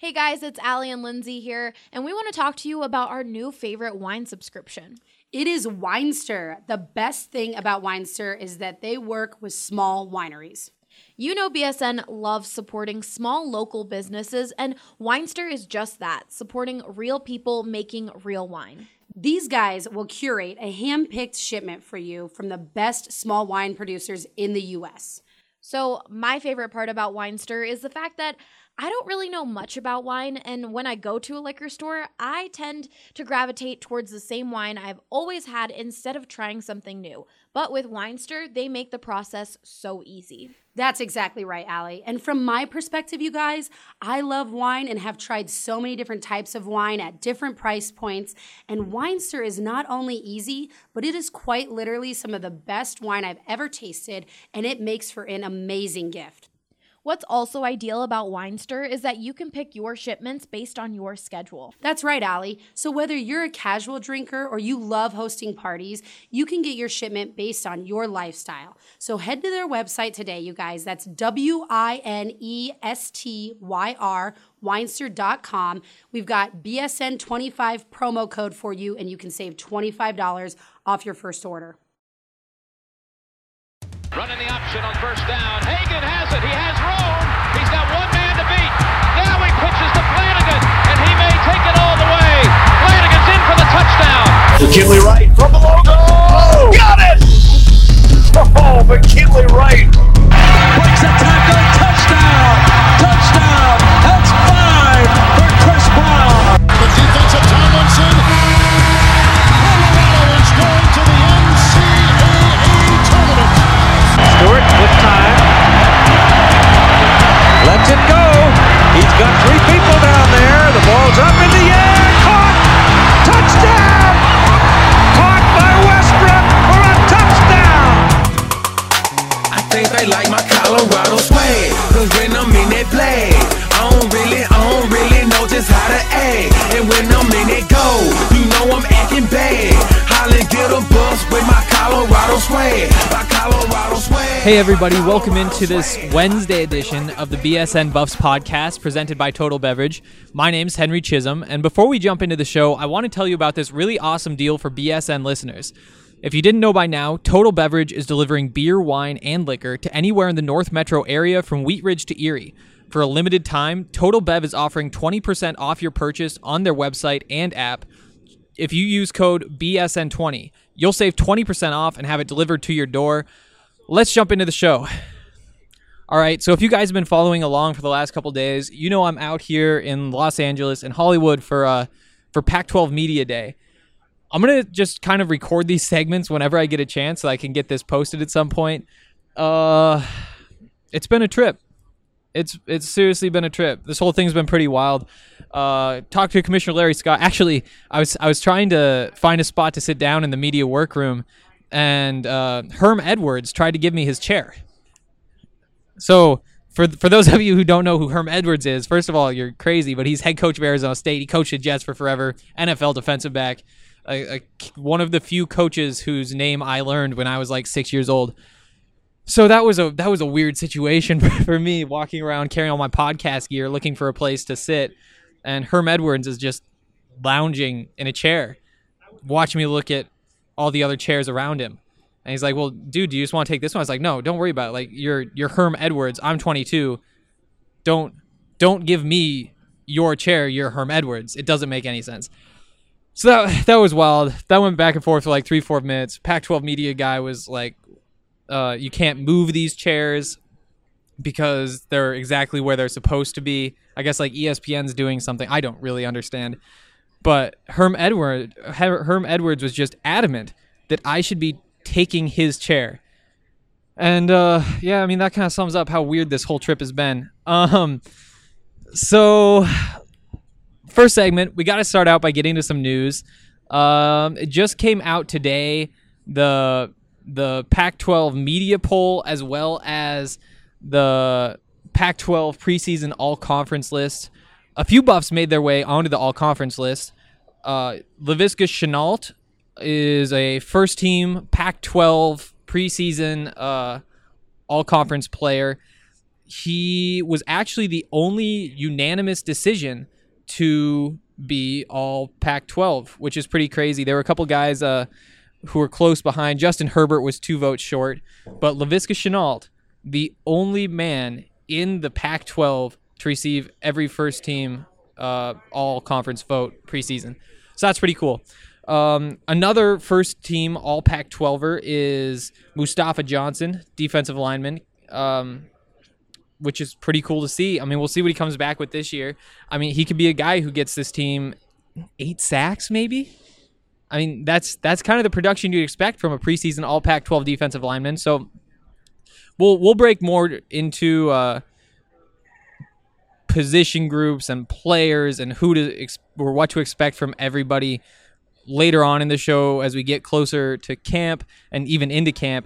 Hey guys, it's Allie and Lindsay here, and we want to talk to you about our new favorite wine subscription. It is Winestyr. The best thing about Winestyr is that they work with small wineries. You know BSN loves supporting small local businesses, and Winestyr is just that, supporting real people making real wine. These guys will curate a hand-picked shipment for you from the best small wine producers in the U.S. So my favorite part about Winestyr is the fact that I don't really know much about wine, and when I go to a liquor store, I tend to gravitate towards the same wine I've always had instead of trying something new. But with Winestyr, they make the process so easy. That's exactly right, Allie. And from my perspective, you guys, I love wine and have tried so many different types of wine at different price points. And Winestyr is not only easy, but it is quite literally some of the best wine I've ever tasted, and it makes for an amazing gift. What's also ideal about Winestyr is that you can pick your shipments based on your schedule. That's right, Allie. So whether you're a casual drinker or you love hosting parties, you can get your shipment based on your lifestyle. So head to their website today, you guys. That's WINESTYR, Winestyr.com. We've got BSN25 promo code for you, and you can save $25 off your first order. Running the option on first down. Hagan has it. He has room. He's got one man to beat. Now he pitches to Flanagan, and he may take it all the way. Flanagan's in for the touchdown. McKinley Wright from the logo. Got it! Oh, McKinley Wright. Breaks a tackle. Touchdown. Touchdown. That's 5 for Chris Brown. The defense of Tomlinson. Colorado is going to the NCAA tournament. Stewart with time. Lets it go. He's got 3 people down there. The ball's up in the air. Caught. Touchdown. Caught by Westbrook for a touchdown. I think they like my Colorado swag. Cause when I'm in that play, I don't really know just how to act. And when I'm in that go, you know I'm acting bad. Holla, get a bus with my Colorado swag. My Colorado swag. Hey everybody, welcome into this Wednesday edition of the BSN Buffs podcast presented by Total Beverage. My name's Henry Chisholm, and before we jump into the show, I want to tell you about this really awesome deal for BSN listeners. If you didn't know by now, Total Beverage is delivering beer, wine, and liquor to anywhere in the North Metro area from Wheat Ridge to Erie. For a limited time, Total Bev is offering 20% off your purchase on their website and app. If you use code BSN20, you'll save 20% off and have it delivered to your door. Let's jump into the show. All right, so if you guys have been following along for the last couple days, you know I'm out here in Los Angeles and Hollywood for Pac-12 Media Day. I'm going to just kind of record these segments whenever I get a chance so I can get this posted at some point. It's been a trip. It's seriously been a trip. This whole thing's been pretty wild. Talked to Commissioner Larry Scott. Actually, I was trying to find a spot to sit down in the media workroom, and Herm Edwards tried to give me his chair. So for those of you who don't know who Herm Edwards is, first of all, you're crazy, but he's head coach of Arizona State. He coached the Jets for forever, NFL defensive back, one of the few coaches whose name I learned when I was like 6 years old. So that was a weird situation for me, walking around carrying all my podcast gear, looking for a place to sit, and Herm Edwards is just lounging in a chair, watching me look at all the other chairs around him. And he's like, "Well, dude, do you just want to take this one?" I was like, "No, don't worry about it. Like, you're Herm Edwards. I'm 22. Don't give me your chair. You're Herm Edwards. It doesn't make any sense." So that was wild. That went back and forth for like 3-4 minutes. Pac-12 media guy was like, you can't move these chairs because they're exactly where they're supposed to be. I guess like ESPN's doing something. I don't really understand. But Herm Edwards was just adamant that I should be taking his chair. And yeah, I mean, that kind of sums up how weird this whole trip has been. So first segment, we got to start out by getting to some news. It just came out today, the Pac-12 media poll, as well as the Pac-12 preseason all-conference list. A few Buffs made their way onto the all-conference list. Laviska Shenault is a first-team Pac-12 preseason all-conference player. he was actually the only unanimous decision to be all Pac-12, which is pretty crazy. There were a couple guys who were close behind. Justin Herbert was 2 votes short, but Laviska Shenault, the only man in the Pac-12 to receive every first team all-conference vote preseason. So that's pretty cool. Another first team all Pac-12er is Mustafa Johnson, defensive lineman, which is pretty cool to see. I mean, we'll see what he comes back with this year. I mean, he could be a guy who gets this team 8 sacks maybe. I mean, that's kind of the production you'd expect from a preseason all Pac-12 defensive lineman. So we'll break more into position groups and players and or what to expect from everybody later on in the show as we get closer to camp and even into camp.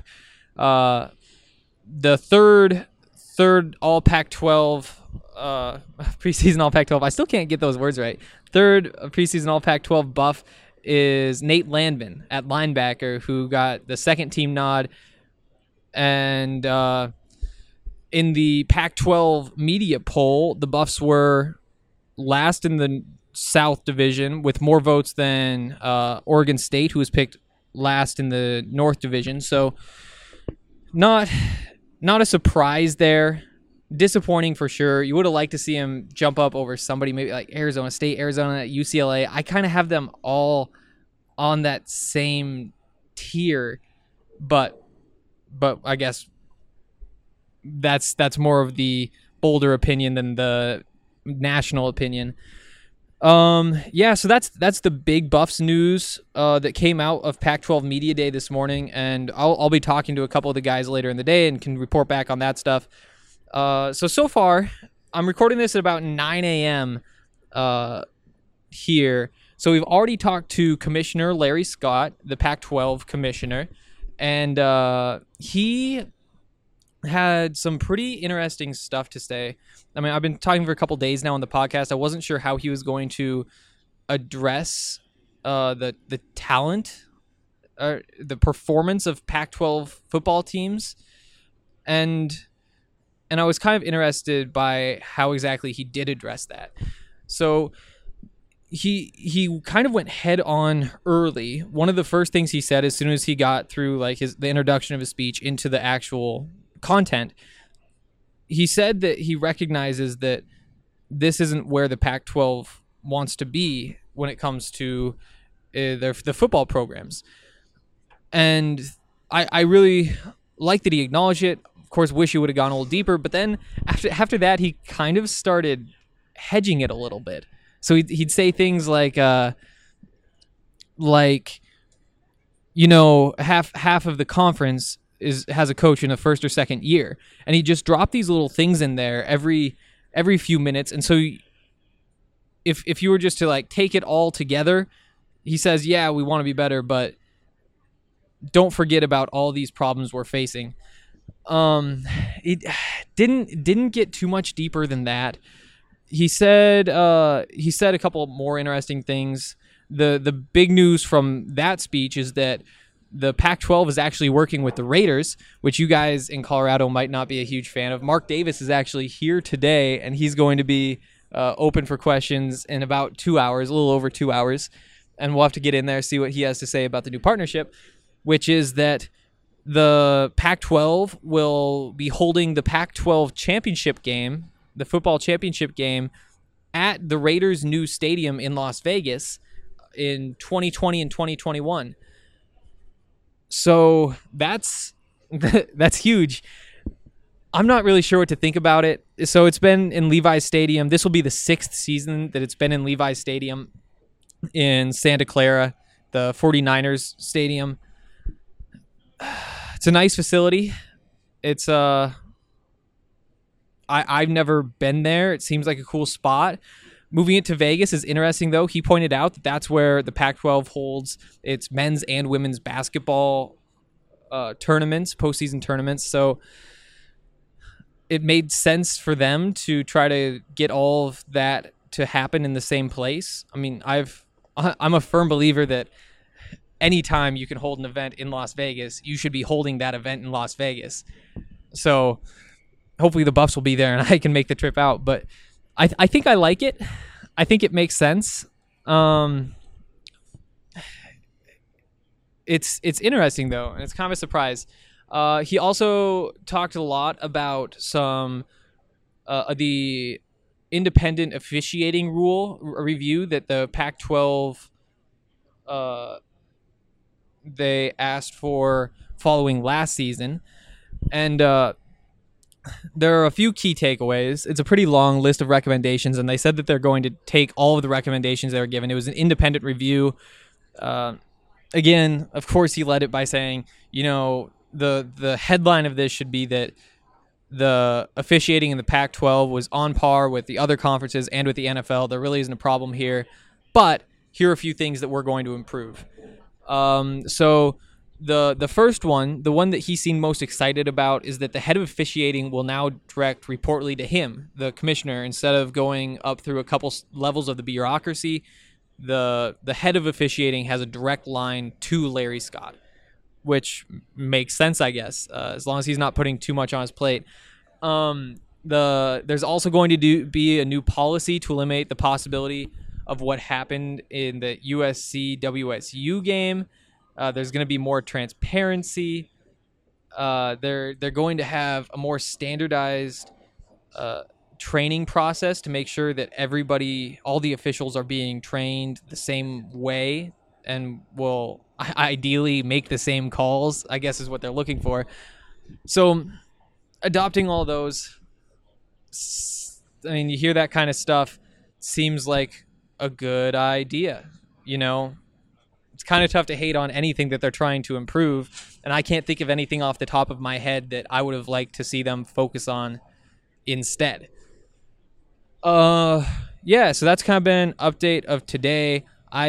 The third all Pac-12 preseason all Pac-12. I still can't get those words right. Third preseason all Pac-12 buff is Nate Landman at linebacker, who got the second team nod. And in the Pac-12 media poll, the Buffs were last in the South Division with more votes than Oregon State, who was picked last in the North Division. So not a surprise there. Disappointing for sure. You would have liked to see him jump up over somebody, maybe like Arizona State, Arizona, UCLA. I kind of have them all on that same tier, but I guess that's more of the bolder opinion than the national opinion. Yeah, so that's the big Buffs news that came out of Pac-12 Media Day this morning, and I'll be talking to a couple of the guys later in the day and can report back on that stuff. So far, I'm recording this at about 9 a.m. Here. So we've already talked to Commissioner Larry Scott, the Pac-12 commissioner, and he had some pretty interesting stuff to say. I mean, I've been talking for a couple days now on the podcast. I wasn't sure how he was going to address the talent, the performance of Pac-12 football teams, and I was kind of interested by how exactly he did address that. So he kind of went head on early. One of the first things he said as soon as he got through like the introduction of his speech into the actual content, he said that he recognizes that this isn't where the Pac-12 wants to be when it comes to the football programs. And I really like that he acknowledged it. Of course, wish he would have gone a little deeper, but then after that, he kind of started hedging it a little bit. So he'd say things like, half of the conference has a coach in the first or second year, and he just dropped these little things in there every few minutes. And so if you were just to like take it all together, he says, yeah, we want to be better, but don't forget about all these problems we're facing. It didn't get too much deeper than that. He said a couple more interesting things. The big news from that speech is that the Pac-12 is actually working with the Raiders, which you guys in Colorado might not be a huge fan of. Mark Davis is actually here today, and he's going to be open for questions in about 2 hours, a little over 2 hours, and we'll have to get in there, see what he has to say about the new partnership, which is that the Pac-12 will be holding the Pac-12 championship game, the football championship game, at the Raiders' new stadium in Las Vegas in 2020 and 2021. So that's huge. I'm not really sure what to think about it. So it's been in Levi's Stadium. This will be the 6th season that it's been in Levi's Stadium in Santa Clara, the 49ers stadium. It's a nice facility. It's I've never been there. It seems like a cool spot. Moving it to Vegas is interesting, though. He pointed out that that's where the Pac-12 holds its men's and women's basketball tournaments, postseason tournaments. So it made sense for them to try to get all of that to happen in the same place. I mean, I'm a firm believer that anytime you can hold an event in Las Vegas, you should be holding that event in Las Vegas. So hopefully the Buffs will be there and I can make the trip out. But I think I like it. I think it makes sense. It's interesting though, and it's kind of a surprise. He also talked a lot about some the independent officiating rule review that the Pac-12 they asked for following last season, and there are a few key takeaways. It's a pretty long list of recommendations, and they said that they're going to take all of the recommendations they were given. It was an independent review. Again, of course, he led it by saying, the headline of this should be that the officiating in the Pac-12 was on par with the other conferences and with the NFL. There really isn't a problem here, but here are a few things that we're going to improve. So the first one, the one that he seemed most excited about, is that the head of officiating will now direct reportedly to him, the commissioner, instead of going up through a couple levels of the bureaucracy. The head of officiating has a direct line to Larry Scott, which makes sense, I guess, as long as he's not putting too much on his plate. There's also going to be a new policy to eliminate the possibility of what happened in the USC-WSU game. There's going to be more transparency. They're going to have a more standardized training process to make sure that all the officials are being trained the same way and will ideally make the same calls, I guess is what they're looking for. So adopting all those, you hear that kind of stuff, seems like a good idea. It's kind of tough to hate on anything that they're trying to improve, and I can't think of anything off the top of my head that I would have liked to see them focus on instead. Yeah, so that's kind of been an update of today. I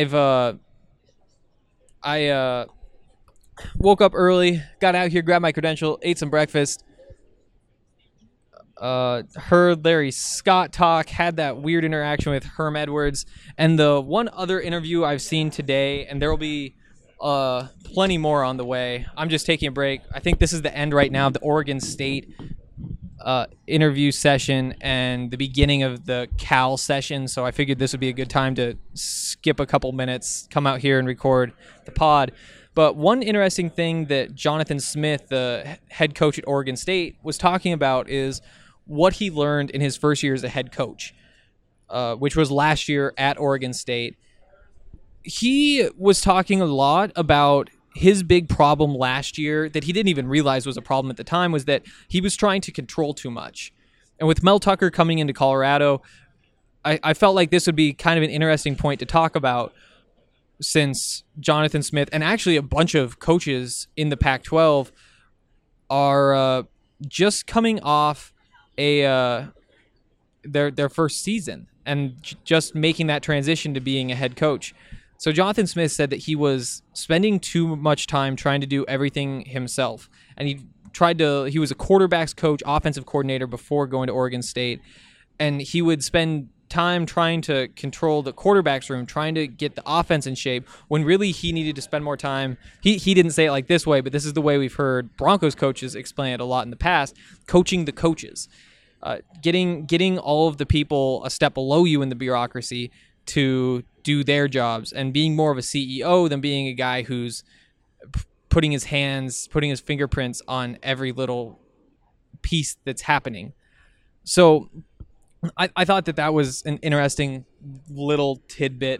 woke up early, got out here, grabbed my credential, ate some breakfast, heard Larry Scott talk, had that weird interaction with Herm Edwards, and the one other interview I've seen today, and there will be plenty more on the way. I'm just taking a break. I think this is the end right now of the Oregon State interview session and the beginning of the Cal session, so I figured this would be a good time to skip a couple minutes, come out here and record the pod. But one interesting thing that Jonathan Smith, the head coach at Oregon State, was talking about is what he learned in his first year as a head coach, which was last year at Oregon State. He was talking a lot about his big problem last year that he didn't even realize was a problem at the time was that he was trying to control too much. And with Mel Tucker coming into Colorado, I felt like this would be kind of an interesting point to talk about, since Jonathan Smith and actually a bunch of coaches in the Pac-12 are just coming off their first season and just making that transition to being a head coach. So Jonathan Smith said that he was spending too much time trying to do everything himself. And he was a quarterbacks coach, offensive coordinator before going to Oregon State. And he would spend time trying to control the quarterbacks room, trying to get the offense in shape, when really he needed to spend more time. He didn't say it like this way, but this is the way we've heard Broncos coaches explain it a lot in the past, coaching the coaches. Getting all of the people a step below you in the bureaucracy to do their jobs, and being more of a CEO than being a guy who's putting his fingerprints on every little piece that's happening. So I thought that was an interesting little tidbit.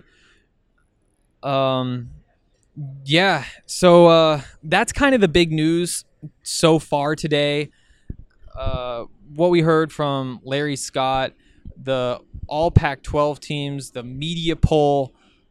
Yeah, so that's kind of the big news so far today. What we heard from Larry Scott, the all Pac-12 teams, the media poll.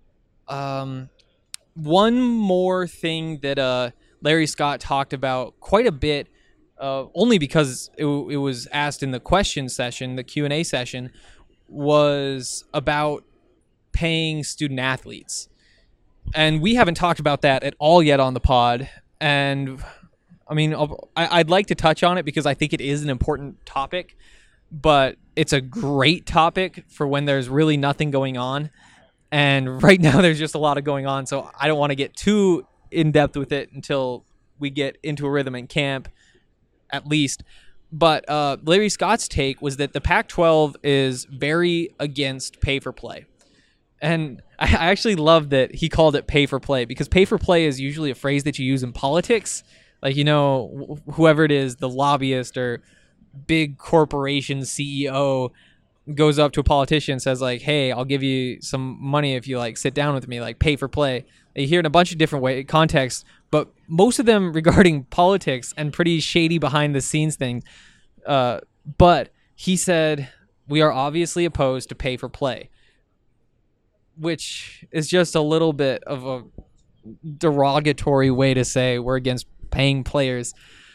One more thing that Larry Scott talked about quite a bit, only because it was asked in the question session, the Q&A session, was about paying student athletes. And we haven't talked about that at all yet on the pod. And I'd like to touch on it because I think it is an important topic, but it's a great topic for when there's really nothing going on. And right now there's just a lot of going on, so I don't want to get too in-depth with it until we get into a rhythm in camp, at least. But Larry Scott's take was that the Pac-12 is very against pay for play. And I actually love that he called it pay for play, because pay for play is usually a phrase that you use in politics. Like, whoever it is, the lobbyist or big corporation CEO goes up to a politician and says, like, hey, I'll give you some money if you sit down with me, like pay for play. You hear it in a bunch of different contexts, but most of them regarding politics and pretty shady behind the scenes things. But he said, we are obviously opposed to pay for play, which is just a little bit of a derogatory way to say we're against paying players.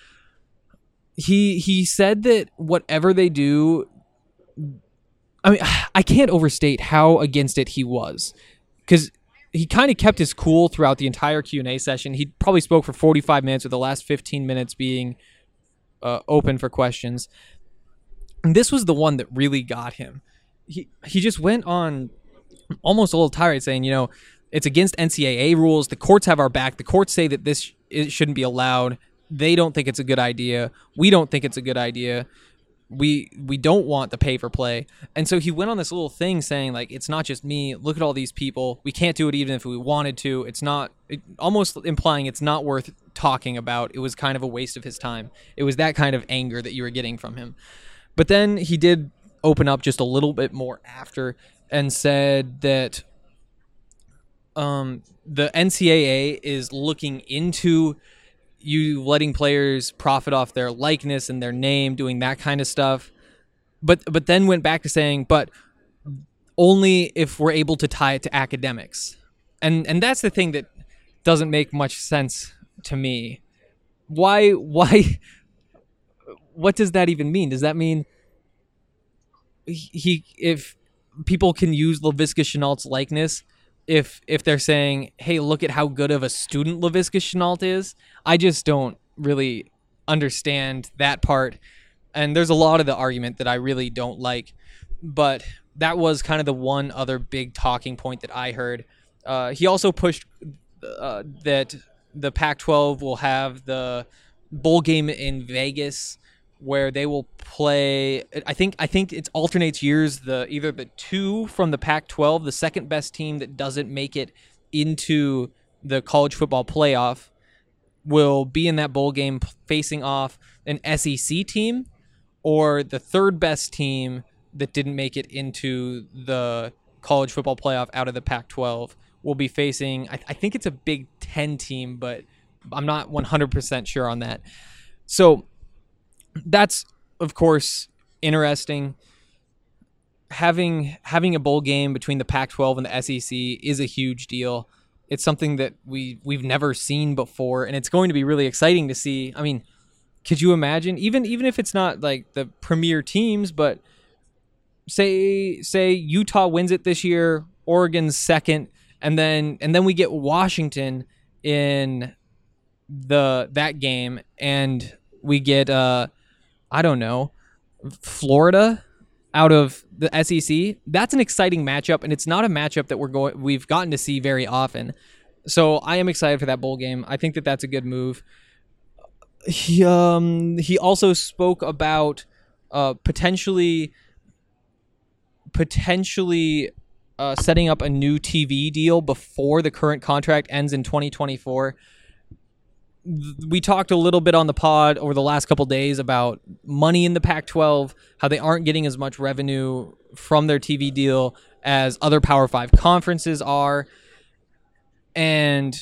He said that whatever they do, I mean, I can't overstate how against it he was, because he kind of kept his cool throughout the entire Q&A session. He probably spoke for 45 minutes, with the last 15 minutes being open for questions. And this was the one that really got him. He just went on almost a little tirade saying, it's against NCAA rules. The courts have our back. The courts say that it shouldn't be allowed. They don't think it's a good idea. We don't think it's a good idea. We don't want the pay for play. And so he went on this little thing saying, like, it's not just me. Look at all these people. We can't do it even if we wanted to. Almost implying it's not worth talking about. It was kind of a waste of his time. It was that kind of anger that you were getting from him. But then he did open up just a little bit more after and said that the NCAA is looking into you letting players profit off their likeness and their name, doing that kind of stuff. But then went back to saying, but only if we're able to tie it to academics. And that's the thing that doesn't make much sense to me. Why what does that even mean? Does that mean if people can use Laviska Shenault's likeness, if they're saying, hey, look at how good of a student Laviska Shenault is? I just don't really understand that part. And there's a lot of the argument that I really don't like. But that was kind of the one other big talking point that I heard. He also pushed that the Pac-12 will have the bowl game in Vegas, where they will play. I think it alternates years. Either the two from the Pac-12, the second best team that doesn't make it into the college football playoff, will be in that bowl game facing off an SEC team, or the third best team that didn't make it into the college football playoff out of the Pac-12 will be facing. I think it's a Big Ten team, but I'm not 100% sure on that. So that's, of course, interesting. Having a bowl game between the Pac-12 and the SEC is a huge deal. It's something that we've never seen before, and it's going to be really exciting to see. I mean, could you imagine, even if it's not like the premier teams, but say Utah wins it this year, Oregon's second, and then we get Washington in that game, and we get I don't know, Florida out of the SEC. That's an exciting matchup, and it's not a matchup that we've gotten to see very often. So I am excited for that bowl game. I think that that's a good move. He also spoke about potentially setting up a new TV deal before the current contract ends in 2024. We talked a little bit on the pod over the last couple days about money in the Pac-12, how they aren't getting as much revenue from their TV deal as other Power 5 conferences are. And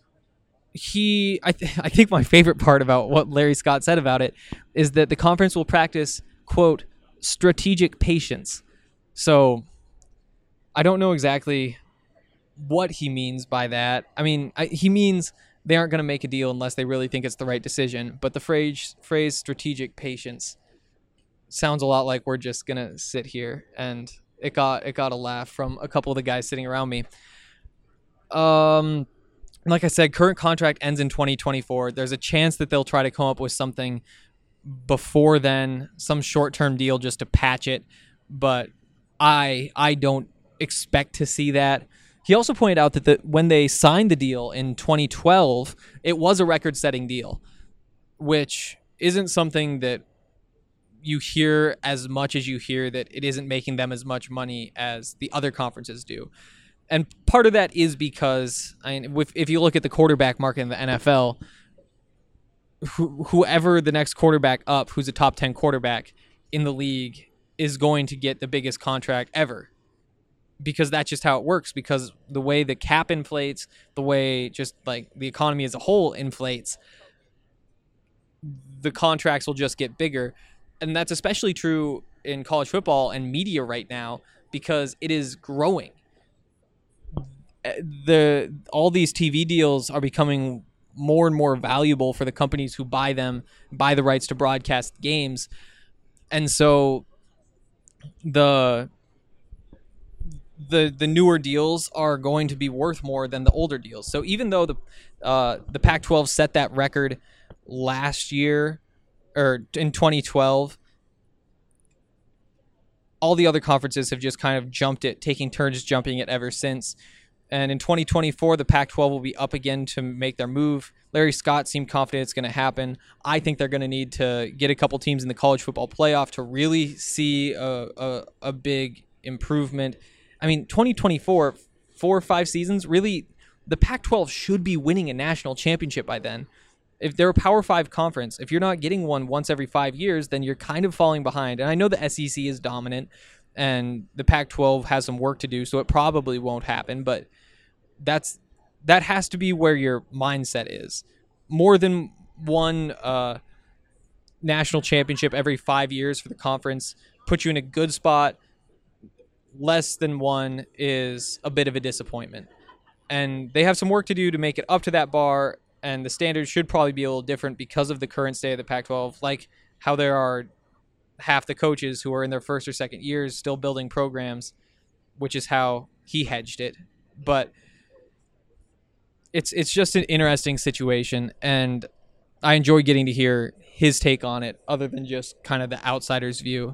I think my favorite part about what Larry Scott said about it is that the conference will practice, quote, strategic patience. So I don't know exactly what he means by that. I mean, he means they aren't going to make a deal unless they really think it's the right decision. But the phrase strategic patience sounds a lot like we're just going to sit here, and it got a laugh from a couple of the guys sitting around me. Like I said, current contract ends in 2024. There's a chance that they'll try to come up with something before then, some short-term deal just to patch it, but I don't expect to see that. He also pointed out that when they signed the deal in 2012, it was a record-setting deal, which isn't something that you hear as much as you hear that it isn't making them as much money as the other conferences do. And part of that is because if you look at the quarterback market in the NFL, whoever the next quarterback up, who's a top 10 quarterback in the league, is going to get the biggest contract ever. Because that's just how it works, because the way the cap inflates, the way just like the economy as a whole inflates, the contracts will just get bigger. And that's especially true in college football and media right now, because it is growing. All these TV deals are becoming more and more valuable for the companies who buy the rights to broadcast games. And so the newer deals are going to be worth more than the older deals. So even though the Pac-12 set that record last year, or in 2012, all the other conferences have just kind of jumped it, taking turns jumping it ever since. And in 2024, the Pac-12 will be up again to make their move. Larry Scott seemed confident it's going to happen. I think they're going to need to get a couple teams in the college football playoff to really see a big improvement. I mean, 2024, 4 or 5 seasons, really, the Pac-12 should be winning a national championship by then. If they're a Power 5 conference, if you're not getting one once every 5 years, then you're kind of falling behind. And I know the SEC is dominant and the Pac-12 has some work to do, so it probably won't happen, but that has to be where your mindset is. More than one national championship every 5 years for the conference puts you in a good spot. Less than one is a bit of a disappointment. And they have some work to do to make it up to that bar, and the standards should probably be a little different because of the current state of the Pac-12, like how there are half the coaches who are in their first or second years still building programs, which is how he hedged it. But it's just an interesting situation, and I enjoy getting to hear his take on it other than just kind of the outsider's view.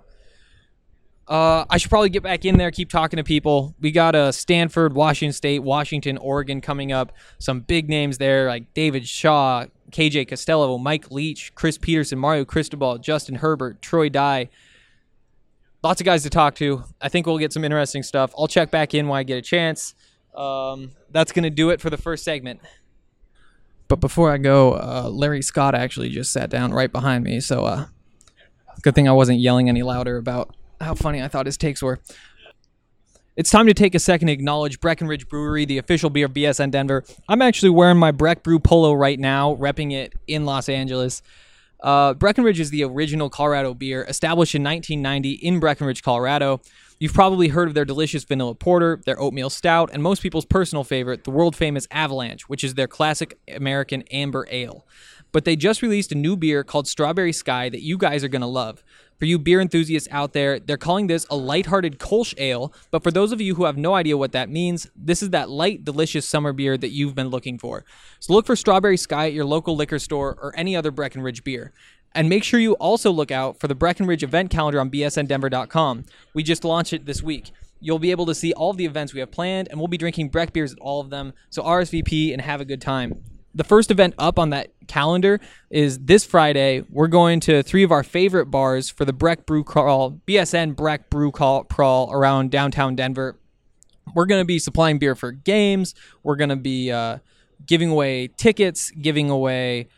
I should probably get back in there, keep talking to people. We got Stanford, Washington State, Washington, Oregon coming up. Some big names there like David Shaw, KJ Costello, Mike Leach, Chris Peterson, Mario Cristobal, Justin Herbert, Troy Dye. Lots of guys to talk to. I think we'll get some interesting stuff. I'll check back in when I get a chance. That's going to do it for the first segment. But before I go, Larry Scott actually just sat down right behind me, so good thing I wasn't yelling any louder about how funny I thought his takes were. It's time to take a second to acknowledge Breckenridge Brewery, the official beer of BSN Denver. I'm actually wearing my Breck Brew polo right now, repping it in Los Angeles. Breckenridge is the original Colorado beer, established in 1990 in Breckenridge, Colorado. You've probably heard of their delicious vanilla porter, their oatmeal stout, and most people's personal favorite, the world-famous Avalanche, which is their classic American amber ale. But they just released a new beer called Strawberry Sky that you guys are going to love. For you beer enthusiasts out there, they're calling this a lighthearted Kolsch ale, but for those of you who have no idea what that means, this is that light, delicious summer beer that you've been looking for. So look for Strawberry Sky at your local liquor store or any other Breckenridge beer. And make sure you also look out for the Breckenridge event calendar on bsndenver.com. We just launched it this week. You'll be able to see all of the events we have planned, and we'll be drinking Breck beers at all of them, so RSVP and have a good time. The first event up on that calendar is this Friday. We're going to 3 of our favorite bars for the Breck Brew Crawl, BSN Breck Brew Crawl around downtown Denver. We're going to be supplying beer for games. We're going to be giving away tickets, giving away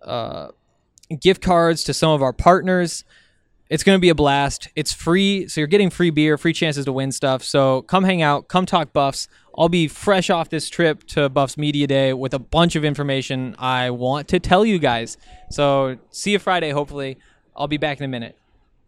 gift cards to some of our partners. It's going to be a blast. It's free, so you're getting free beer, free chances to win stuff. So come hang out, come talk Buffs. I'll be fresh off this trip to Buffs Media Day with a bunch of information I want to tell you guys. So see you Friday, hopefully. I'll be back in a minute.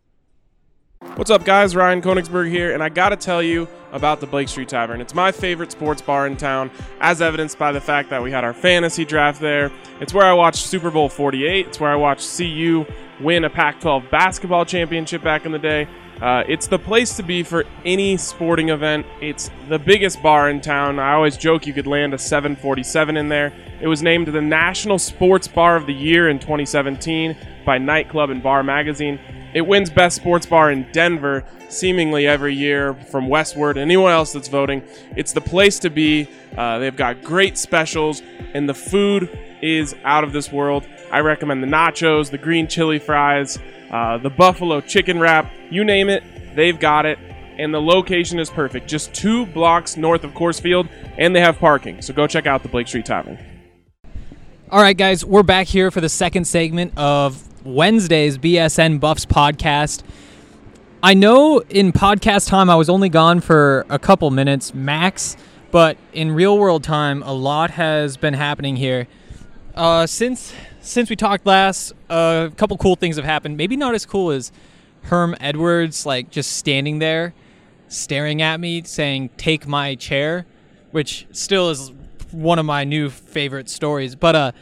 What's up, guys? Ryan Koenigsberg here, and I gotta tell you about the Blake Street Tavern. It's my favorite sports bar in town, as evidenced by the fact that we had our fantasy draft there. It's where I watched Super Bowl 48. It's where I watched CU win a Pac-12 basketball championship back in the day. It's the place to be for any sporting event. It's the biggest bar in town. I always joke you could land a 747 in there. It was named the National Sports Bar of the Year in 2017 by Nightclub and Bar Magazine. It wins Best Sports Bar in Denver seemingly every year from Westward and anyone else that's voting. It's the place to be. They've got great specials, and the food is out of this world. I recommend the nachos, the green chili fries, the buffalo chicken wrap, you name it, they've got it. And the location is perfect, just 2 blocks north of Coors Field, and they have parking. So go check out the Blake Street Tavern. All right, guys, we're back here for the second segment of Wednesday's BSN Buffs podcast. I know in podcast time I was only gone for a couple minutes max, but in real world time, a lot has been happening here. Since we talked last, a couple cool things have happened. Maybe not as cool as Herm Edwards, like just standing there, staring at me, saying, "Take my chair," which still is one of my new favorite stories. But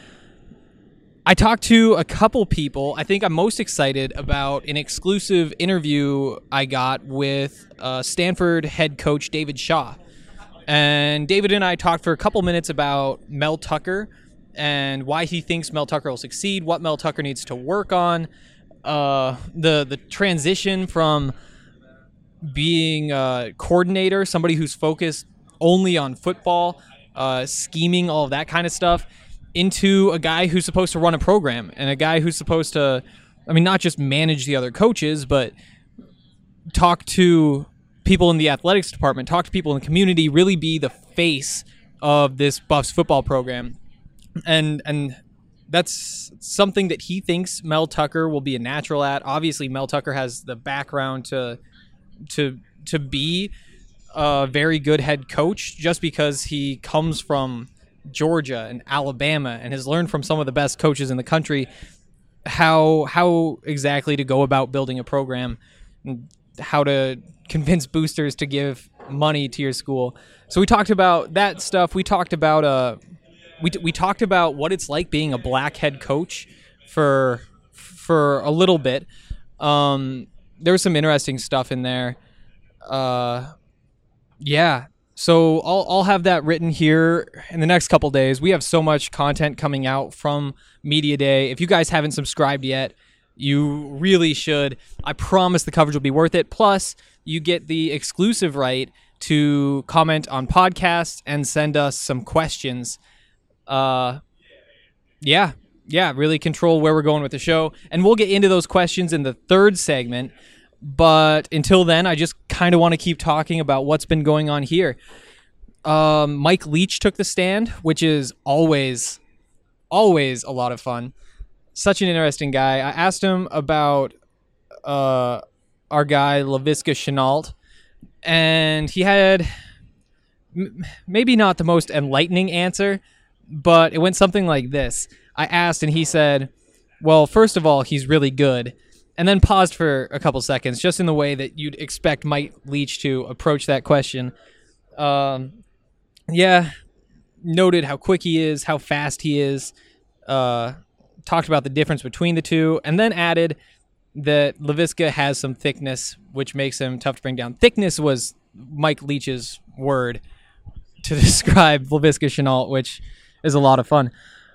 I talked to a couple people. I think I'm most excited about an exclusive interview I got with Stanford head coach David Shaw. And David and I talked for a couple minutes about Mel Tucker and why he thinks Mel Tucker will succeed, what Mel Tucker needs to work on, the transition from being a coordinator, somebody who's focused only on football, scheming, all of that kind of stuff, into a guy who's supposed to run a program and a guy who's supposed to, not just manage the other coaches, but talk to people in the athletics department, talk to people in the community, really be the face of this Buffs football program. And that's something that he thinks Mel Tucker will be a natural at. Obviously, Mel Tucker has the background to be a very good head coach just because he comes from Georgia and Alabama and has learned from some of the best coaches in the country how exactly to go about building a program, how to convince boosters to give money to your school. So we talked about that stuff. We talked about we talked about what it's like being a black head coach for a little bit. There was some interesting stuff in there. Yeah. So I'll have that written here in the next couple days. We have so much content coming out from Media Day. If you guys haven't subscribed yet, you really should. I promise the coverage will be worth it. Plus, you get the exclusive right to comment on podcasts and send us some questions. Yeah, really control where we're going with the show. And we'll get into those questions in the third segment. But until then, I just kind of want to keep talking about what's been going on here. Mike Leach took the stand, which is always a lot of fun. Such an interesting guy. I asked him about our guy, Laviska Shenault, and he had maybe not the most enlightening answer, but it went something like this. I asked, and he said, well, first of all, he's really good. And then paused for a couple seconds, just in the way that you'd expect Mike Leach to approach that question. Yeah, noted how quick he is, how fast he is, talked about the difference between the two, and then added that Laviska has some thickness, which makes him tough to bring down. Thickness was Mike Leach's word to describe Laviska Shenault, which is a lot of fun.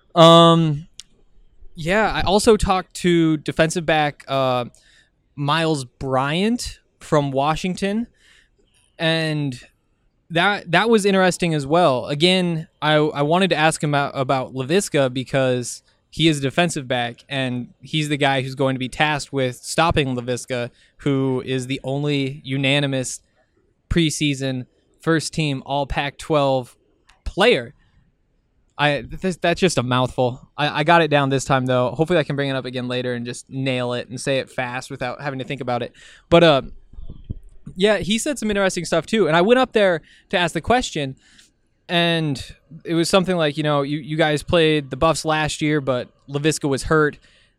Yeah, I also talked to defensive back Miles Bryant from Washington, and that was interesting as well. Again, I wanted to ask him about Laviska because he is a defensive back, and he's the guy who's going to be tasked with stopping Laviska, who is the only unanimous preseason first-team All-Pac-12 player. That's just a mouthful. I got it down this time, though. Hopefully I can bring it up again later and just nail it and say it fast without having to think about it. But yeah, he said some interesting stuff too. And I went up there to ask the question, and it was something like, you guys played the Buffs last year, but Laviska was hurt.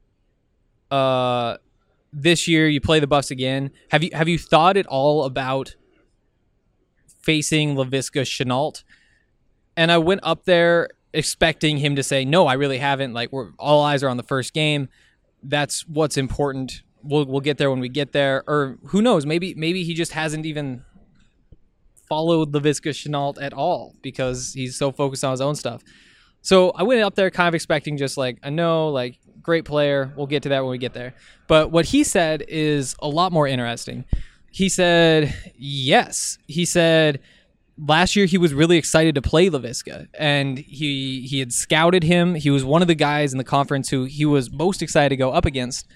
This year you play the Buffs again. Have you thought at all about facing Laviska Shenault? And I went up there expecting him to say, no, I really haven't. Like, all eyes are on the first game. That's what's important. We'll get there when we get there. Or who knows? Maybe he just hasn't even followed Laviska Shenault at all because he's so focused on his own stuff. So I went up there kind of expecting just like, I know, like, great player. We'll get to that when we get there. But what he said is a lot more interesting. He said, yes. He said, last year he was really excited to play Laviska, and he had scouted him. He was one of the guys in the conference who he was most excited to go up against.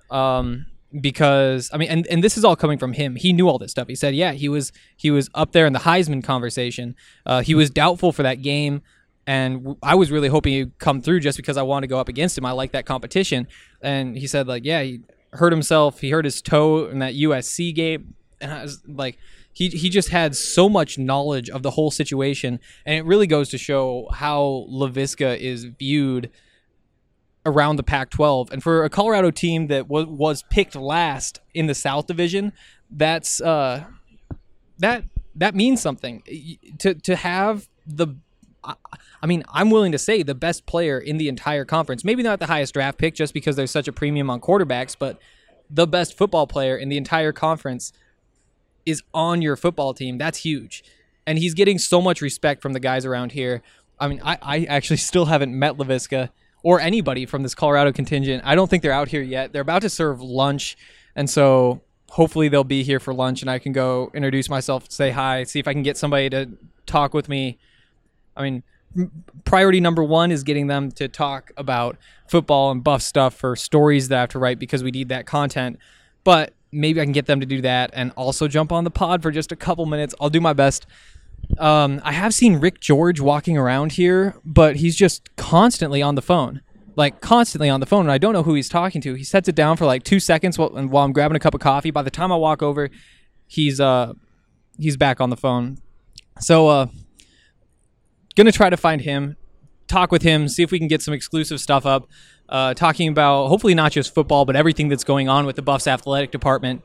Because I mean, and this is all coming from him. He knew all this stuff. He said, yeah, he was up there in the Heisman conversation. He was doubtful for that game, and I was really hoping he'd come through just because I wanted to go up against him. I like that competition. And he said, like, yeah, he hurt himself. He hurt his toe in that USC game, and I was like, he just had so much knowledge of the whole situation, and it really goes to show how Laviska is viewed around the Pac-12. And for a Colorado team that was picked last in the South Division, that's that means something. To have I mean, I'm willing to say the best player in the entire conference, maybe not the highest draft pick just because there's such a premium on quarterbacks, but the best football player in the entire conference is on your football team. That's huge. And he's getting so much respect from the guys around here. I mean, I actually still haven't met Laviska or anybody from this Colorado contingent. I don't think they're out here yet. They're about to serve lunch, and so hopefully they'll be here for lunch, and I can go introduce myself, say hi, see if I can get somebody to talk with me. I mean, priority number one is getting them to talk about football and Buff stuff for stories that I have to write because we need that content. But maybe I can get them to do that and also jump on the pod for just a couple minutes. I'll do my best. I have seen Rick George walking around here, but he's just constantly on the phone. And I don't know who he's talking to. He sets it down for like 2 seconds while I'm grabbing a cup of coffee. By the time I walk over, he's back on the phone. So, gonna try to find him, talk with him, see if we can get some exclusive stuff up, talking about hopefully not just football, but everything that's going on with the Buffs athletic department.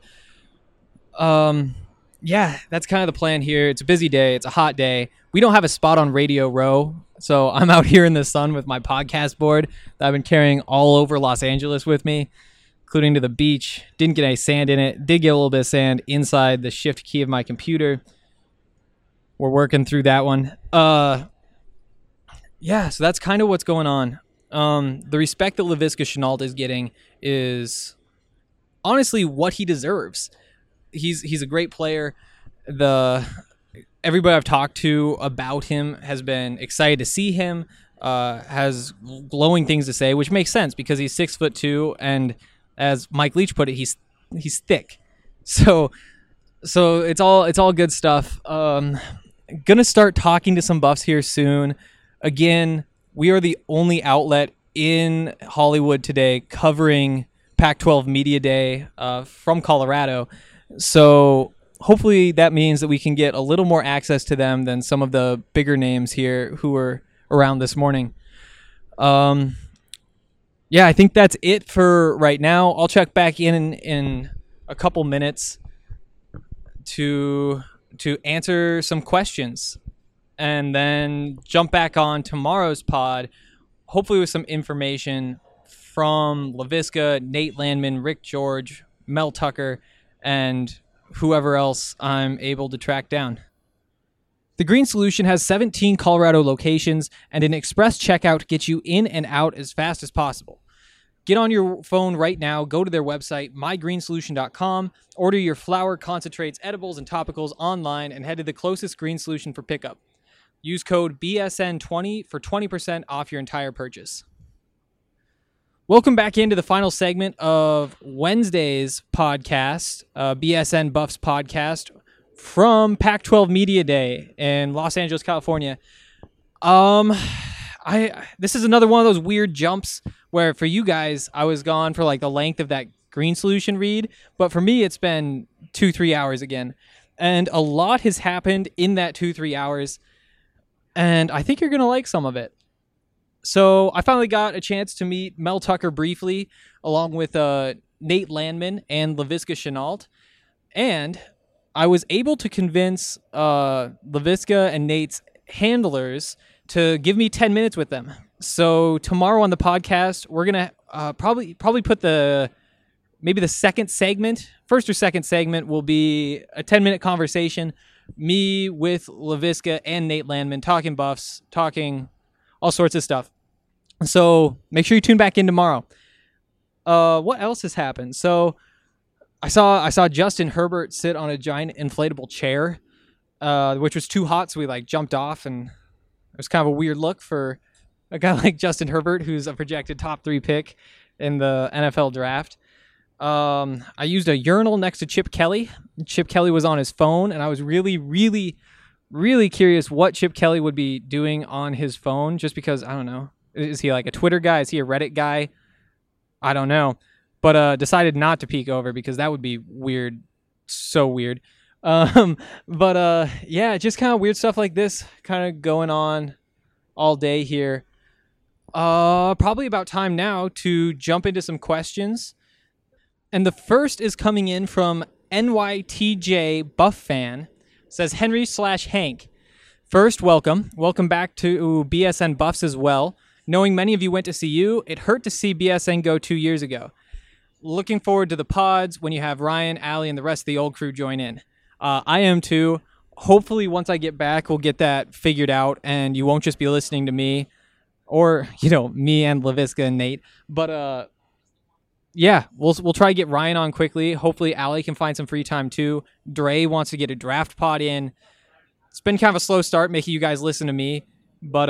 Yeah, that's kind of the plan here. It's a busy day. It's a hot day. We don't have a spot on Radio Row, so I'm out here in the sun with my podcast board that I've been carrying all over Los Angeles with me, including to the beach. Didn't get any sand in it. Did get a little bit of sand inside the shift key of my computer. We're working through that one. Yeah, so that's kind of what's going on. The respect that Laviska Shenault is getting is honestly what he deserves. He's a great player. Everybody I've talked to about him has been excited to see him, has glowing things to say, which makes sense because he's 6'2", and as Mike Leach put it, he's thick. So it's all good stuff. Gonna start talking to some Buffs here soon. Again, we are the only outlet in Hollywood today covering Pac-12 Media Day from Colorado. So hopefully that means that we can get a little more access to them than some of the bigger names here who were around this morning. Yeah, I think that's it for right now. I'll check back in a couple minutes to answer some questions and then jump back on tomorrow's pod, hopefully with some information from Laviska, Nate Landman, Rick George, Mel Tucker, and whoever else I'm able to track down. The Green Solution has 17 Colorado locations, and an express checkout gets you in and out as fast as possible. Get on your phone right now, go to their website, mygreensolution.com, order your flower, concentrates, edibles, and topicals online, and head to the closest Green Solution for pickup. Use code BSN20 for 20% off your entire purchase. Welcome back into the final segment of Wednesday's podcast, BSN Buffs podcast from Pac-12 Media Day in Los Angeles, California. This is another one of those weird jumps where for you guys, I was gone for like the length of that Green Solution read, but for me, it's been 2-3 hours again. And a lot has happened in that 2-3 hours, and I think you're going to like some of it. So I finally got a chance to meet Mel Tucker briefly, along with Nate Landman and Laviska Shenault. And I was able to convince Laviska and Nate's handlers to give me 10 minutes with them. So tomorrow on the podcast, we're going to probably put maybe the second segment, first or second segment will be a 10-minute conversation. Me with Laviska and Nate Landman talking Buffs, talking all sorts of stuff. So make sure you tune back in tomorrow. What else has happened? So I saw Justin Herbert sit on a giant inflatable chair, which was too hot, so we jumped off, and it was kind of a weird look for a guy like Justin Herbert, who's a projected top 3 pick in the NFL draft. I used a urinal next to Chip Kelly. Chip Kelly was on his phone, and I was really, really, really curious what Chip Kelly would be doing on his phone, just because, I don't know. Is he like a Twitter guy? Is he a Reddit guy? I don't know. But decided not to peek over because that would be weird. So weird. Yeah, just kind of weird stuff like this kind of going on all day here. Probably about time now to jump into some questions. And the first is coming in from NYTJ Buff Fan. Says Henry/Hank. First, welcome. Welcome back to BSN Buffs as well. Knowing many of you went to see you, it hurt to see BSN go 2 years ago. Looking forward to the pods when you have Ryan, Allie, and the rest of the old crew join in. I am too. Hopefully, once I get back, we'll get that figured out, and you won't just be listening to me, or me and LaVisca and Nate. But yeah, we'll try to get Ryan on quickly. Hopefully, Allie can find some free time too. Dre wants to get a draft pod in. It's been kind of a slow start making you guys listen to me, but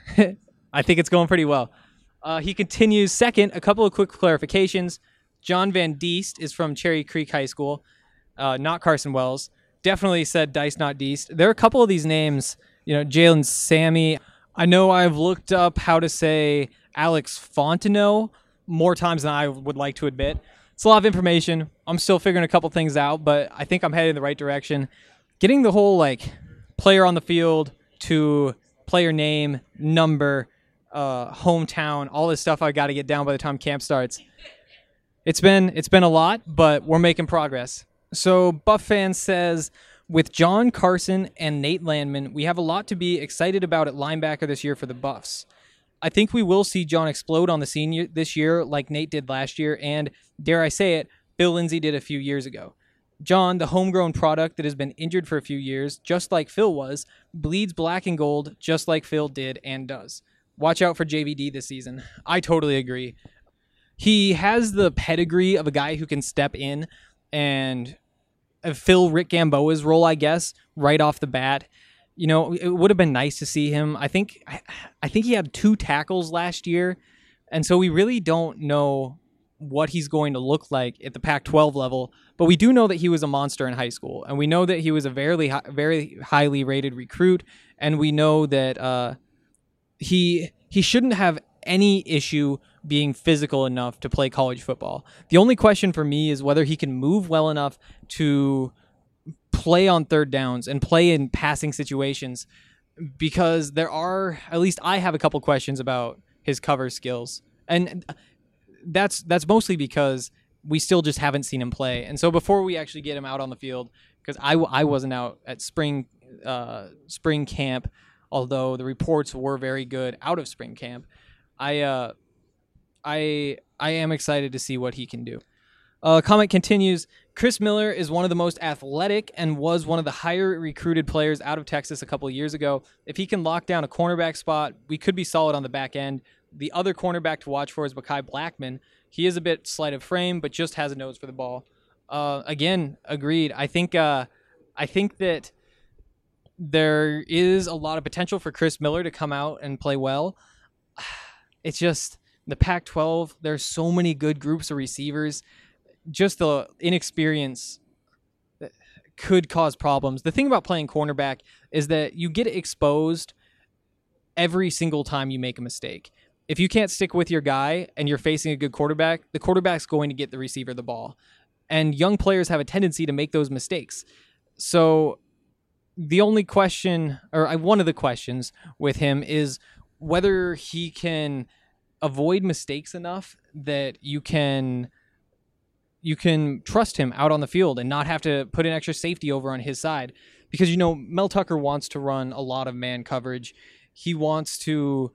I think it's going pretty well. He continues. Second, a couple of quick clarifications. John Van Diest is from Cherry Creek High School, not Carson Wells. Definitely said Dice, not Diest. There are a couple of these names, Jalen Sammy. I know I've looked up how to say Alex Fontenot more times than I would like to admit. It's a lot of information. I'm still figuring a couple things out, but I think I'm headed in the right direction. Getting the whole player on the field to player name, number, hometown, all this stuff I got to get down by the time camp starts. It's been a lot, but we're making progress. So Buff Fan says, with John Carson and Nate Landman, we have a lot to be excited about at linebacker this year for the Buffs. I think we will see John explode on the scene this year like Nate did last year, and, dare I say it, Bill Lindsay did a few years ago. John, the homegrown product that has been injured for a few years, just like Phil was, bleeds black and gold just like Phil did and does. Watch out for JVD this season. I totally agree. He has the pedigree of a guy who can step in and fill Rick Gamboa's role, I guess, right off the bat. It would have been nice to see him. I think he had 2 tackles last year, and so we really don't know what he's going to look like at the Pac-12 level, but we do know that he was a monster in high school, and we know that he was a very, very highly rated recruit, and we know that he shouldn't have any issue being physical enough to play college football. The only question for me is whether he can move well enough to play on third downs and play in passing situations, because at least I have a couple questions about his cover skills. And that's mostly because we still just haven't seen him play. And so before we actually get him out on the field, because I wasn't out at spring camp, although the reports were very good out of spring camp, I am excited to see what he can do. Comment continues. Chris Miller is one of the most athletic and was one of the higher recruited players out of Texas a couple of years ago. If he can lock down a cornerback spot, we could be solid on the back end. The other cornerback to watch for is Mekhi Blackman. He is a bit slight of frame, but just has a nose for the ball. Again, agreed. I think that there is a lot of potential for Chris Miller to come out and play well. It's just the Pac-12, there's so many good groups of receivers. Just the inexperience could cause problems. The thing about playing cornerback is that you get exposed every single time you make a mistake. If you can't stick with your guy and you're facing a good quarterback, the quarterback's going to get the receiver the ball. And young players have a tendency to make those mistakes. So the only question, or one of the questions with him, is whether he can avoid mistakes enough that you can trust him out on the field and not have to put an extra safety over on his side. Because, Mel Tucker wants to run a lot of man coverage. He wants to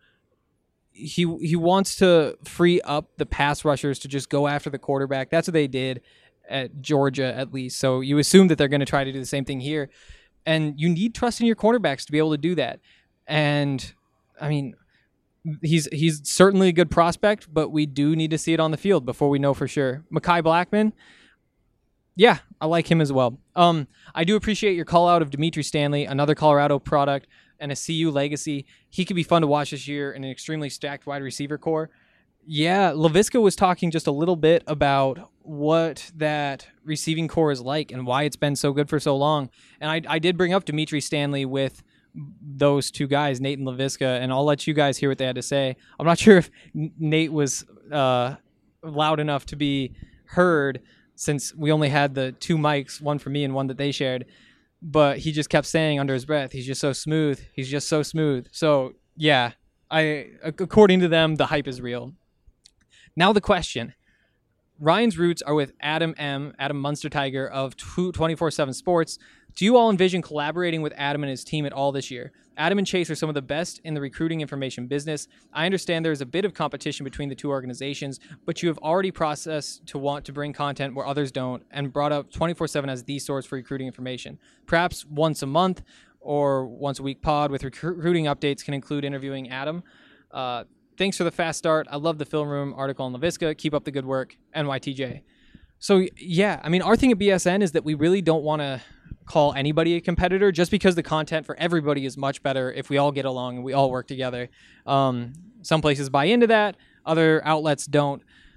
free up the pass rushers to just go after the quarterback. That's what they did at Georgia, at least. So you assume that they're going to try to do the same thing here. And you need trust in your quarterbacks to be able to do that. And, I mean, he's certainly a good prospect, but we do need to see it on the field before we know for sure. Mekhi Blackman, yeah, I like him as well. I do appreciate your call out of Dimitri Stanley, another Colorado product and a CU legacy. He could be fun to watch this year in an extremely stacked wide receiver core. Yeah, LaVisca was talking just a little bit about what that receiving core is like and why it's been so good for so long. And I did bring up Dimitri Stanley with those two guys, Nate and LaVisca, and I'll let you guys hear what they had to say. I'm not sure if Nate was loud enough to be heard since we only had the two mics, one for me and one that they shared. But he just kept saying under his breath, he's just so smooth. He's just so smooth. So, yeah, according to them, the hype is real. Now the question. Ryan's roots are with Adam Munster Tiger of 24/7 Sports. Do you all envision collaborating with Adam and his team at all this year? Adam and Chase are some of the best in the recruiting information business. I understand there is a bit of competition between the two organizations, but you have already processed to want to bring content where others don't and brought up 24/7 as the source for recruiting information. Perhaps once a month or once a week pod with recruiting updates can include interviewing Adam. Thanks for the fast start. I love the Film Room article on LaVisca. Keep up the good work, NYTJ. So, yeah, I mean, our thing at BSN is that we really don't want to call anybody a competitor just because the content for everybody is much better if we all get along and we all work together. Some places buy into that. Other outlets don't.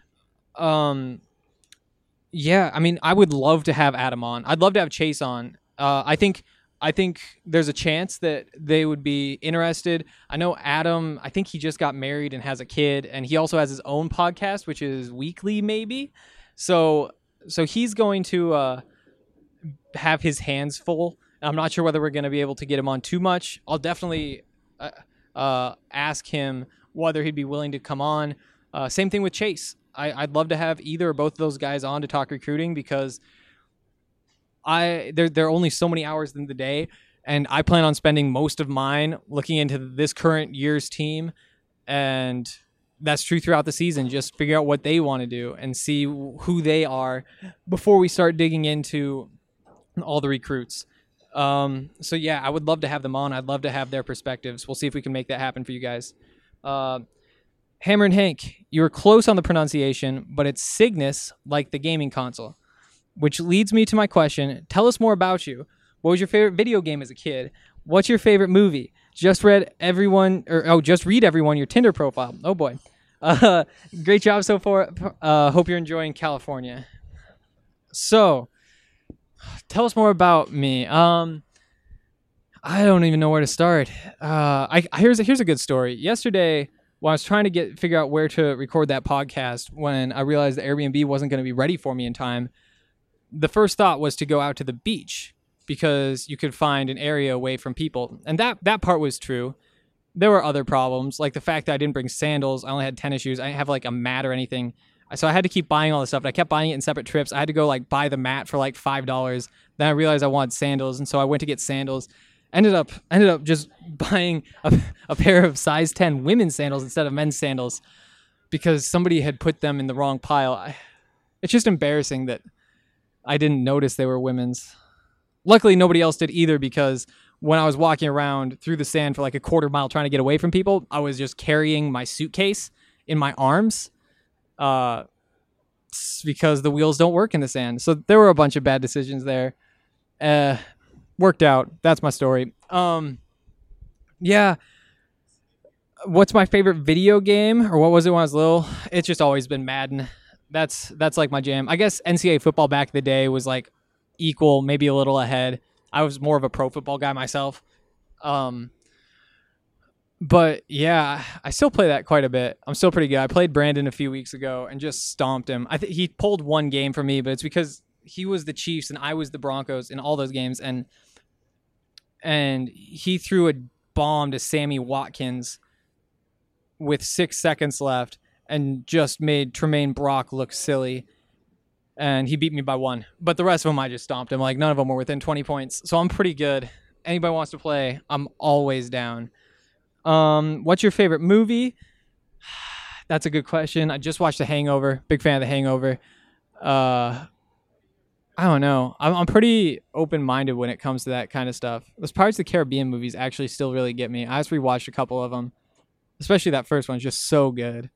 Yeah, I mean, I would love to have Adam on. I'd love to have Chase on. I think there's a chance that they would be interested. I know Adam, I think he just got married and has a kid, and he also has his own podcast, which is weekly maybe. So he's going to have his hands full. I'm not sure whether we're going to be able to get him on too much. I'll definitely ask him whether he'd be willing to come on. Same thing with Chase. I'd love to have either or both of those guys on to talk recruiting because there are only so many hours in the day, and I plan on spending most of mine looking into this current year's team, and that's true throughout the season. Just figure out what they want to do and see who they are before we start digging into all the recruits. So yeah, I would love to have them on. I'd love to have their perspectives. We'll see if we can make that happen for you guys. Hammer and Hank, you were close on the pronunciation, but it's Cygnus, like the gaming console. Which leads me to my question. Tell us more about you. What was your favorite video game as a kid? What's your favorite movie? Just read everyone your Tinder profile. Oh boy. Great job so far. Hope you're enjoying California. So, tell us more about me. I don't even know where to start. Here's a good story. Yesterday, when I was trying to figure out where to record that podcast, when I realized the Airbnb wasn't going to be ready for me in time, the first thought was to go out to the beach because you could find an area away from people. And that part was true. There were other problems, like the fact that I didn't bring sandals. I only had tennis shoes. I didn't have like a mat or anything. So I had to keep buying all this stuff. And I kept buying it in separate trips. I had to go like buy the mat for like $5. Then I realized I wanted sandals. And so I went to get sandals. Ended up just buying a pair of size 10 women's sandals instead of men's sandals because somebody had put them in the wrong pile. It's just embarrassing that I didn't notice they were women's. Luckily, nobody else did either because when I was walking around through the sand for like a quarter mile trying to get away from people, I was just carrying my suitcase in my arms because the wheels don't work in the sand. So there were a bunch of bad decisions there. Worked out. That's my story. Yeah. What's my favorite video game, or what was it when I was little? It's just always been Madden. That's like my jam. I guess NCAA football back in the day was like equal, maybe a little ahead. I was more of a pro football guy myself. But yeah, I still play that quite a bit. I'm still pretty good. I played Brandon a few weeks ago and just stomped him. I think he pulled one game for me, but it's because he was the Chiefs and I was the Broncos in all those games. And he threw a bomb to Sammy Watkins with 6 seconds left and just made Tremaine Brock look silly. And he beat me by 1. But the rest of them, I just stomped him. Like, none of them were within 20 points. So I'm pretty good. Anybody wants to play, I'm always down. What's your favorite movie? That's a good question. I just watched The Hangover. Big fan of The Hangover. I don't know. I'm pretty open-minded when it comes to that kind of stuff. Those Pirates of the Caribbean movies actually still really get me. I just rewatched a couple of them. Especially that first one. It's just so good.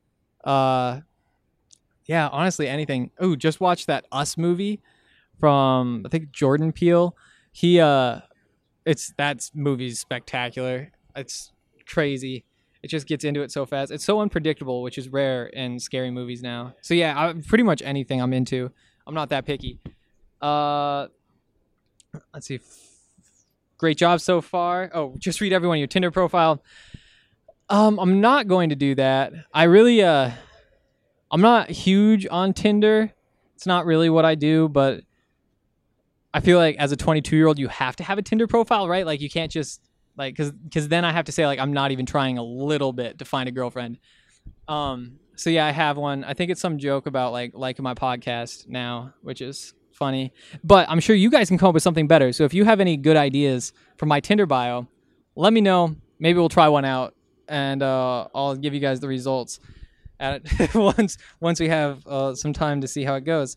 Yeah, honestly, anything. Ooh, just watched that Us movie from, I think, Jordan Peele. That movie's spectacular. It's crazy. It just gets into it so fast. It's so unpredictable, which is rare in scary movies now. So yeah, pretty much anything I'm into. I'm not that picky. Let's see. Great job so far. Oh, just read everyone your Tinder profile. I'm not going to do that. I really, I'm not huge on Tinder. It's not really what I do, but I feel like as a 22-year-old, you have to have a Tinder profile, right? Like you can't just like, cause then I have to say like, I'm not even trying a little bit to find a girlfriend. So yeah, I have one. I think it's some joke about like liking my podcast now, which is funny, but I'm sure you guys can come up with something better. So if you have any good ideas for my Tinder bio, let me know. Maybe we'll try one out, and I'll give you guys the results at it once we have some time to see how it goes.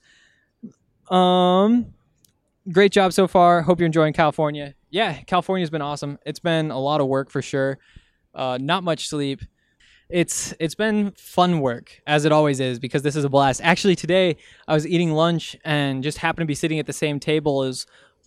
Great job so far. Hope you're enjoying California. Yeah, California's been awesome. It's been a lot of work for sure. Not much sleep. It's been fun work, as it always is, because this is a blast. Actually, today I was eating lunch and just happened to be sitting at the same table as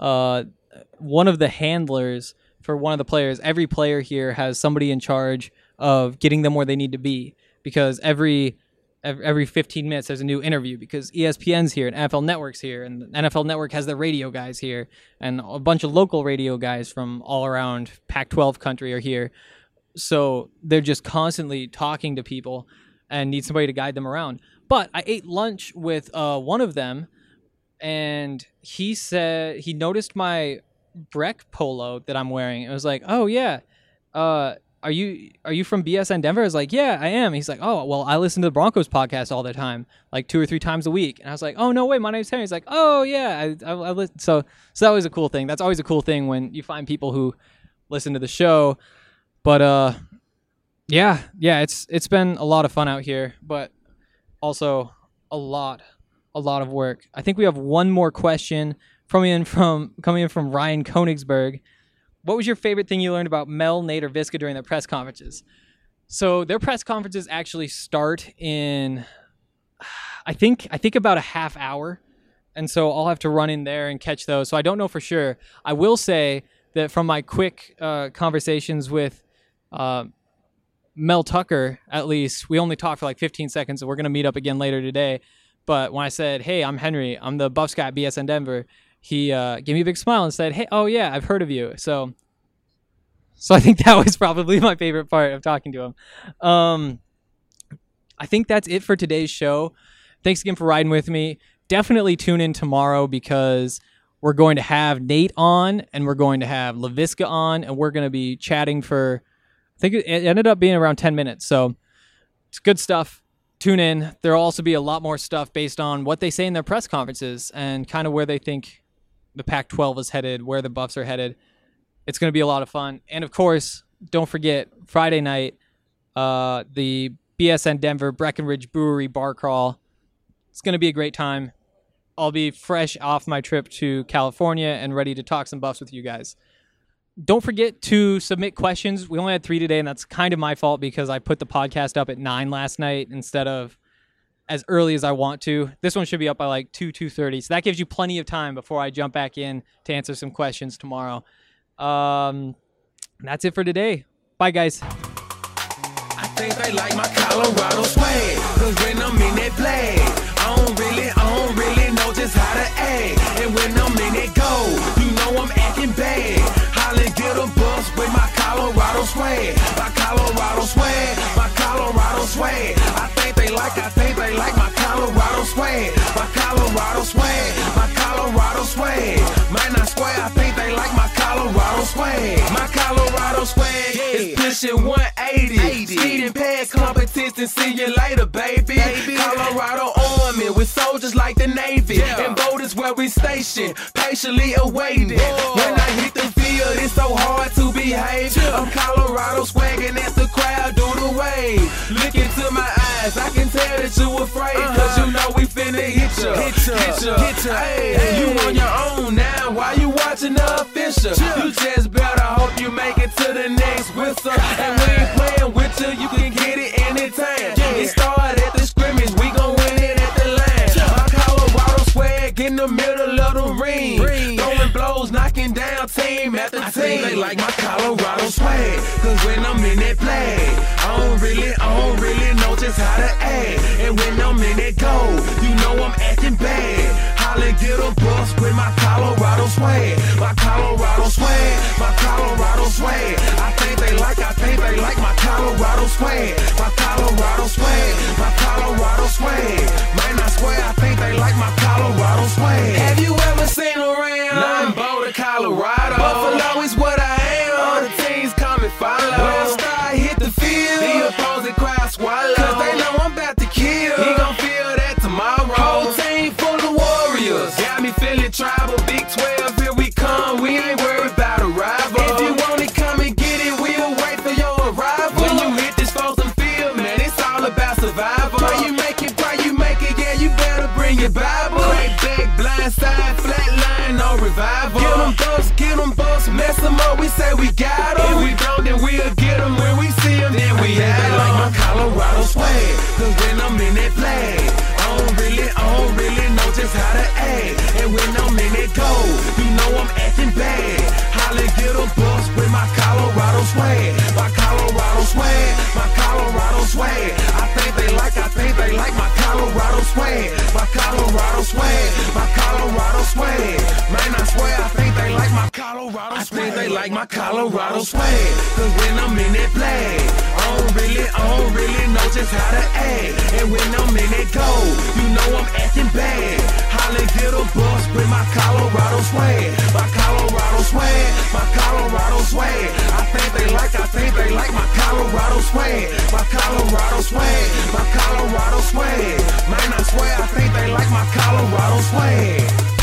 one of the handlers for one of the players. Every player here has somebody in charge of getting them where they need to be, because every 15 minutes there's a new interview, because ESPN's here and NFL Network's here, and the NFL Network has their radio guys here, and a bunch of local radio guys from all around Pac-12 country are here. So they're just constantly talking to people and need somebody to guide them around. But I ate lunch with one of them, and he said he noticed my Breck polo that I'm wearing. It was like, oh yeah, are you from BSN Denver? I was like, yeah, I am. He's like, oh, well, I listen to the Broncos podcast all the time, like 2 or 3 times a week. And I was like, oh, no way, my name's Henry. He's like, oh, yeah, I listen. So that was a cool thing. That's always a cool thing when you find people who listen to the show. But yeah, it's been a lot of fun out here, but also a lot of work. I think we have one more question coming in from Ryan Konigsberg. What was your favorite thing you learned about Mel, Nate, or Visca during their press conferences? So their press conferences actually start in, I think about a half hour. And so I'll have to run in there and catch those. So I don't know for sure. I will say that from my quick conversations with Mel Tucker, at least, we only talked for like 15 seconds, and we're going to meet up again later today. But when I said, hey, I'm Henry, I'm the Buffs guy at BSN Denver, he gave me a big smile and said, hey, oh yeah, I've heard of you. So I think that was probably my favorite part of talking to him. I think that's it for today's show. Thanks again for riding with me. Definitely tune in tomorrow, because we're going to have Nate on, and we're going to have LaVisca on, and we're going to be chatting for, I think it ended up being around 10 minutes. So it's good stuff. Tune in. There'll also be a lot more stuff based on what they say in their press conferences and kind of where they think the Pac-12 is headed, where the Buffs are headed. It's going to be a lot of fun. And of course, don't forget, Friday night, the BSN Denver Breckenridge Brewery Bar Crawl. It's going to be a great time. I'll be fresh off my trip to California and ready to talk some Buffs with you guys. Don't forget to submit questions. We only had 3 today, and that's kind of my fault because I put the podcast up at 9 last night instead of as early as I want to. This one should be up by like 2:30, so that gives you plenty of time before I jump back in to answer some questions tomorrow. That's it for today. Bye, guys. I think they like my Colorado swag, 'cause when I'm in that play, I don't really know just how to act. And when I'm in that go, you know I'm acting bad. Holly get a bus with my Colorado swag. My Colorado swag, my Colorado swag. I think they like my Colorado swag. My Colorado swag, my Colorado swag. Man, I swear I think they like my Colorado swag. My Colorado swag is pushing 180. Speeding past competition, see you later, baby. Colorado Army with soldiers like the Navy. And boat is where we station, patiently awaiting. When I hit the field, it's so hard to behave. I'm Colorado swagging as the crowd do the wave. Look into my eyes, I can tell that you afraid. 'Cause you know we finna hit ya. Hey, you on your own now, why you watching the official? You just better hope you make it to the next whistle. And we ain't playing with you can get it anytime. It started at the scrimmage, we gon' win it at the line. My Colorado swag in the middle of the ring. Throwing blows, knocking down team after team. I think they like my Colorado swag, 'cause when I'm in that play, I don't really know just how to act. And when I'm in that goal, you know I'm acting bad. Holla, get a bus with my Colorado swag. My Colorado swag, my Colorado swag. I think they like my Colorado swag. My Colorado swag, my Colorado swag. Man, I swear I think they like my Colorado swag. Have you ever seen around? Nothing Boulder, Colorado. Buffalo is what I am. All the teams come and follow. When I start hit the field, the opposing crowd swallow. Cause they know I'm about to kill. He gon' feel that tomorrow. Whole team full of warriors. Got me feeling tribal. Big 12, here we come. We ain't worried about a rival. If you want it, come and get it. We'll wait for your arrival. When you hit this frozen field, man, it's all about survival. Pray you make it, yeah, you better bring your Bible. Crack back, blind side, flat line, no revival. Get them bucks, mess them up, we say we got them. If we don't, then we'll get them. When we see them, then we have them. Like my Colorado swag, cause when I'm in that flag, I don't really know just how to act. And when I'm in that goal, you know I'm acting bad. Holla, get a bus with my Colorado swag. My Colorado swag, my Colorado swag. I think they like my Colorado swag. My Colorado swag, my Colorado swag. Man, I swear I think they like my Colorado swag. I think they like my Colorado swag. Cause when I'm in that flag, I don't really know just how to act. And when I'm in that goal, you know I'm acting bad. Holla, get a bus with my Colorado swag. My Colorado swag, my Colorado swag. I think they like my Colorado swag. My Colorado swag, my Colorado swag. Man, I swear I think they like my Colorado swag.